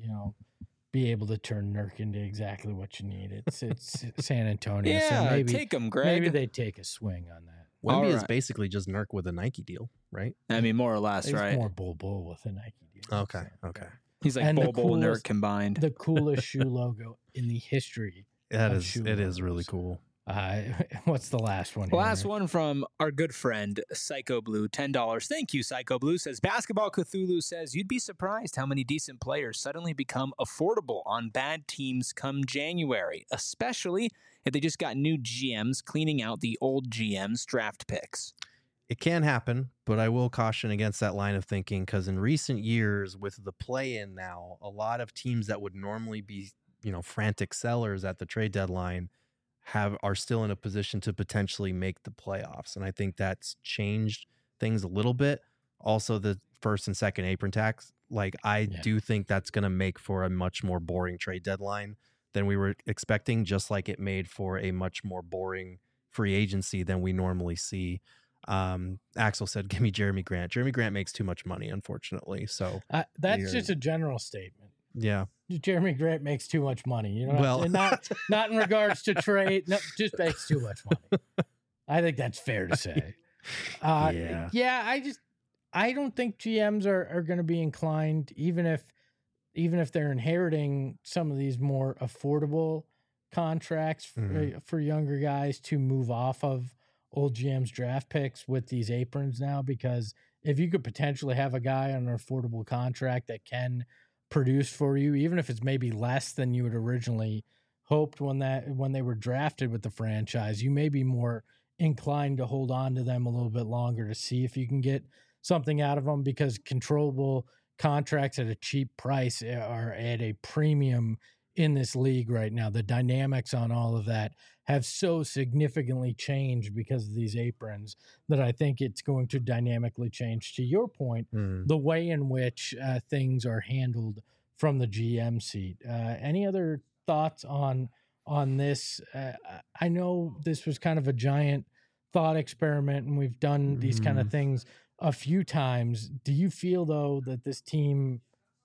be able to turn Nurk into exactly what you need, it's San Antonio. So
Yeah,
maybe
take him, Greg.
maybe they take a swing on that.
Wemby is
Alright.
basically just Nurk with a Nike deal, right?
I mean, more or less,
It's
right?
more bull with a Nike deal.
Okay,
so.
okay.
He's like
And the
Bol Bol Nurk
coolest-
combined.
The coolest shoe logo in the history.
That
Of
is,
shoe
it is
logos.
really cool.
What's the last one? here?
Last one from our good friend Psycho Blue, $10. Thank you, Psycho Blue. Says Basketball Cthulhu says you'd be surprised how many decent players suddenly become affordable on bad teams come January, especially if they just got new GMs cleaning out the old GMs' draft picks.
It can happen, but I will caution against that line of thinking because in recent years, with the play-in now, a lot of teams that would normally be, frantic sellers at the trade deadline are still in a position to potentially make the playoffs, and I think that's changed things a little bit. Also, the first and second apron tax, I do think that's going to make for a much more boring trade deadline than we were expecting, just like it made for a much more boring free agency than we normally see. Axel said, give me Jeremy Grant. Jeremy Grant makes too much money, unfortunately. So
that's
Weird.
just a general statement.
yeah,
Jeremy Grant makes too much money.
Well-
and not in regards to trade. No, just makes too much money. I think that's fair to say.
Yeah.
I don't think GMs are going to be inclined, even if they're inheriting some of these more affordable contracts for younger guys, to move off of old GM's draft picks with these aprons now, because if you could potentially have a guy on an affordable contract that can produce for you, even if it's maybe less than you had originally hoped when they were drafted with the franchise, you may be more inclined to hold on to them a little bit longer to see if you can get something out of them, because controllable contracts at a cheap price are at a premium in this league right now. The dynamics on all of that have so significantly changed because of these aprons that I think it's going to dynamically change, to your point, the way in which things are handled from the GM seat. Any other thoughts on this? I know this was kind of a giant thought experiment, and we've done these kind of things a few times. Do you feel though that this team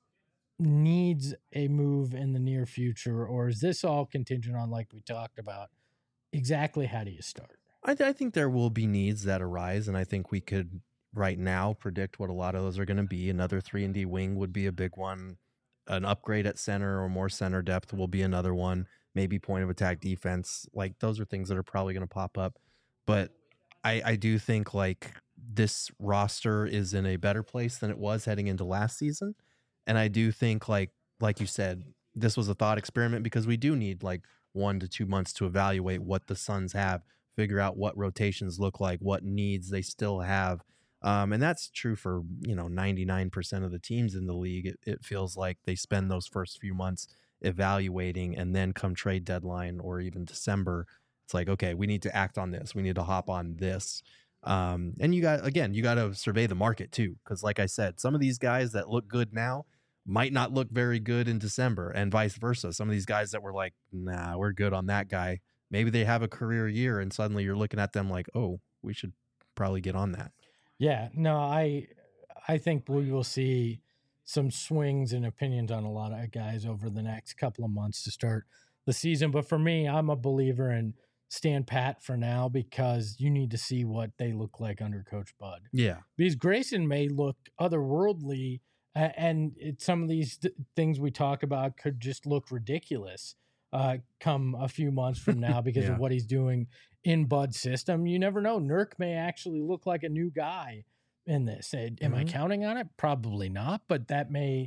needs a move in the near future, or is this all contingent on, like we talked about, exactly how do you start?
I think there will be needs that arise, and I think we could right now predict what a lot of those are going to be. Another 3-and-D wing would be a big one. An upgrade at center or more center depth will be another one. Maybe point of attack defense. Like, those are things that are probably going to pop up. But I do think like this roster is in a better place than it was heading into last season. And I do think like you said, this was a thought experiment because we do need like 1 to 2 months to evaluate what the Suns have, figure out what rotations look like, what needs they still have. And that's true for, 99% of the teams in the league. It feels like they spend those first few months evaluating, and then come trade deadline or even December, it's like, okay, we need to act on this. We need to hop on this. And you got to survey the market too. Cause like I said, some of these guys that look good now might not look very good in December, and vice versa. Some of these guys that were like, nah, we're good on that guy, maybe they have a career year, and suddenly you're looking at them like, oh, we should probably get on that.
Yeah, no, I think we will see some swings in opinions on a lot of guys over the next couple of months to start the season. But for me, I'm a believer in stand pat for now, because you need to see what they look like under Coach Bud.
Yeah.
Because Grayson may look otherworldly, and some of these things we talk about could just look ridiculous come a few months from now because
Yeah.
of what he's doing in Bud's system. You never know. Nurk may actually look like a new guy in this. Am I counting on it? Probably not, but that may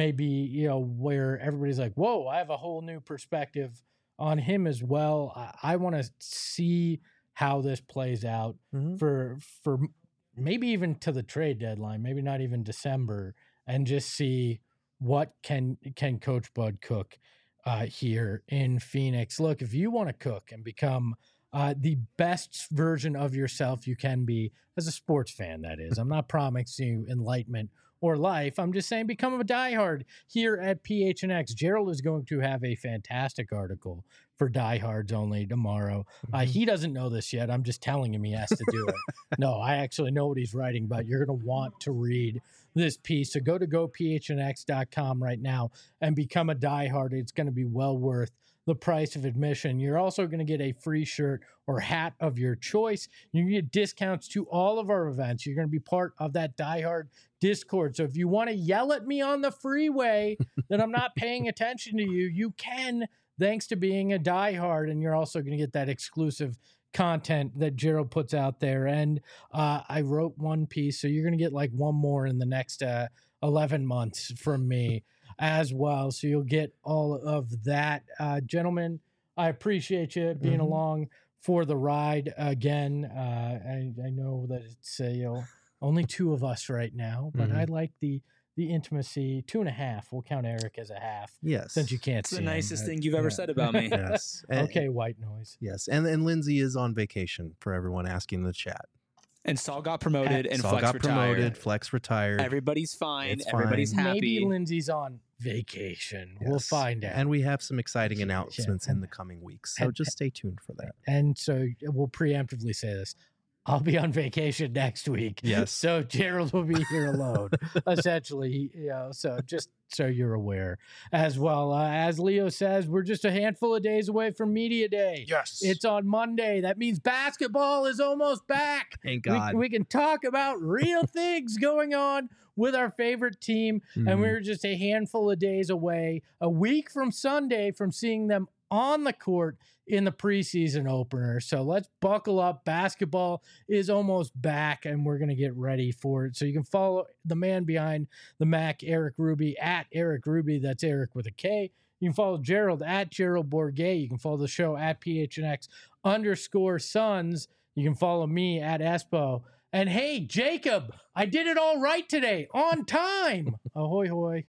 be, where everybody's like, whoa, I have a whole new perspective on him as well. I want to see how this plays out for maybe even to the trade deadline, maybe not even December, and just see what can Coach Bud cook here in Phoenix. Look, if you want to cook and become the best version of yourself you can be as a sports fan, that is. I'm not promising you enlightenment or life. I'm just saying become a diehard here at PHNX. Gerald is going to have a fantastic article for diehards only tomorrow. He doesn't know this yet. I'm just telling him he has to do it. No, I actually know what he's writing, but you're going to want to read this piece. So go to gophnx.com right now and become a diehard. It's going to be well worth the price of admission. You're also going to get a free shirt or hat of your choice. You can get discounts to all of our events. You're going to be part of that diehard Discord. So if you want to yell at me on the freeway that I'm not paying attention to you, you can, thanks to being a diehard. And you're also going to get that exclusive content that Gerald puts out there. And I wrote one piece, so you're going to get like one more in the next 11 months from me as well. So you'll get all of that. Gentlemen, I appreciate you being along for the ride again. I know that it's only two of us right now, but I like the intimacy. 2.5. We'll count Eric as a half.
Yes.
Since you can't
It's
see
the
him,
nicest thing you've ever said about me.
Yes.
Okay, white noise.
Yes. And Lindsay is on vacation, for everyone asking in the chat.
And Saul got promoted, and
Saul
Flex
got
retired.
promoted, Flex retired.
Everybody's fine.
It's
Everybody's
fine.
happy.
Maybe Lindsay's on vacation.
Yes.
We'll find out.
And we have some exciting announcements
Yeah.
in the coming weeks. So just stay tuned for that.
And so we'll preemptively say this. I'll be on vacation next week.
Yes.
So Gerald will be here alone, essentially. So just so you're aware as well. As Leo says, we're just a handful of days away from Media Day.
Yes.
It's on Monday. That means basketball is almost back.
Thank God.
We can talk about real things going on with our favorite team. And we're just a handful of days away, a week from Sunday, from seeing them on the court in the preseason opener. So let's buckle up. Basketball is almost back, and we're going to get ready for it. So you can follow the man behind the Mac, Eric Ruby, at Eric Ruby. That's Eric with a K. You can follow Gerald at Gerald Bourget. You can follow the show at PHNX_Suns. You can follow me at Espo. And hey, Jacob, I did it all right today, on time. Ahoy, hoy.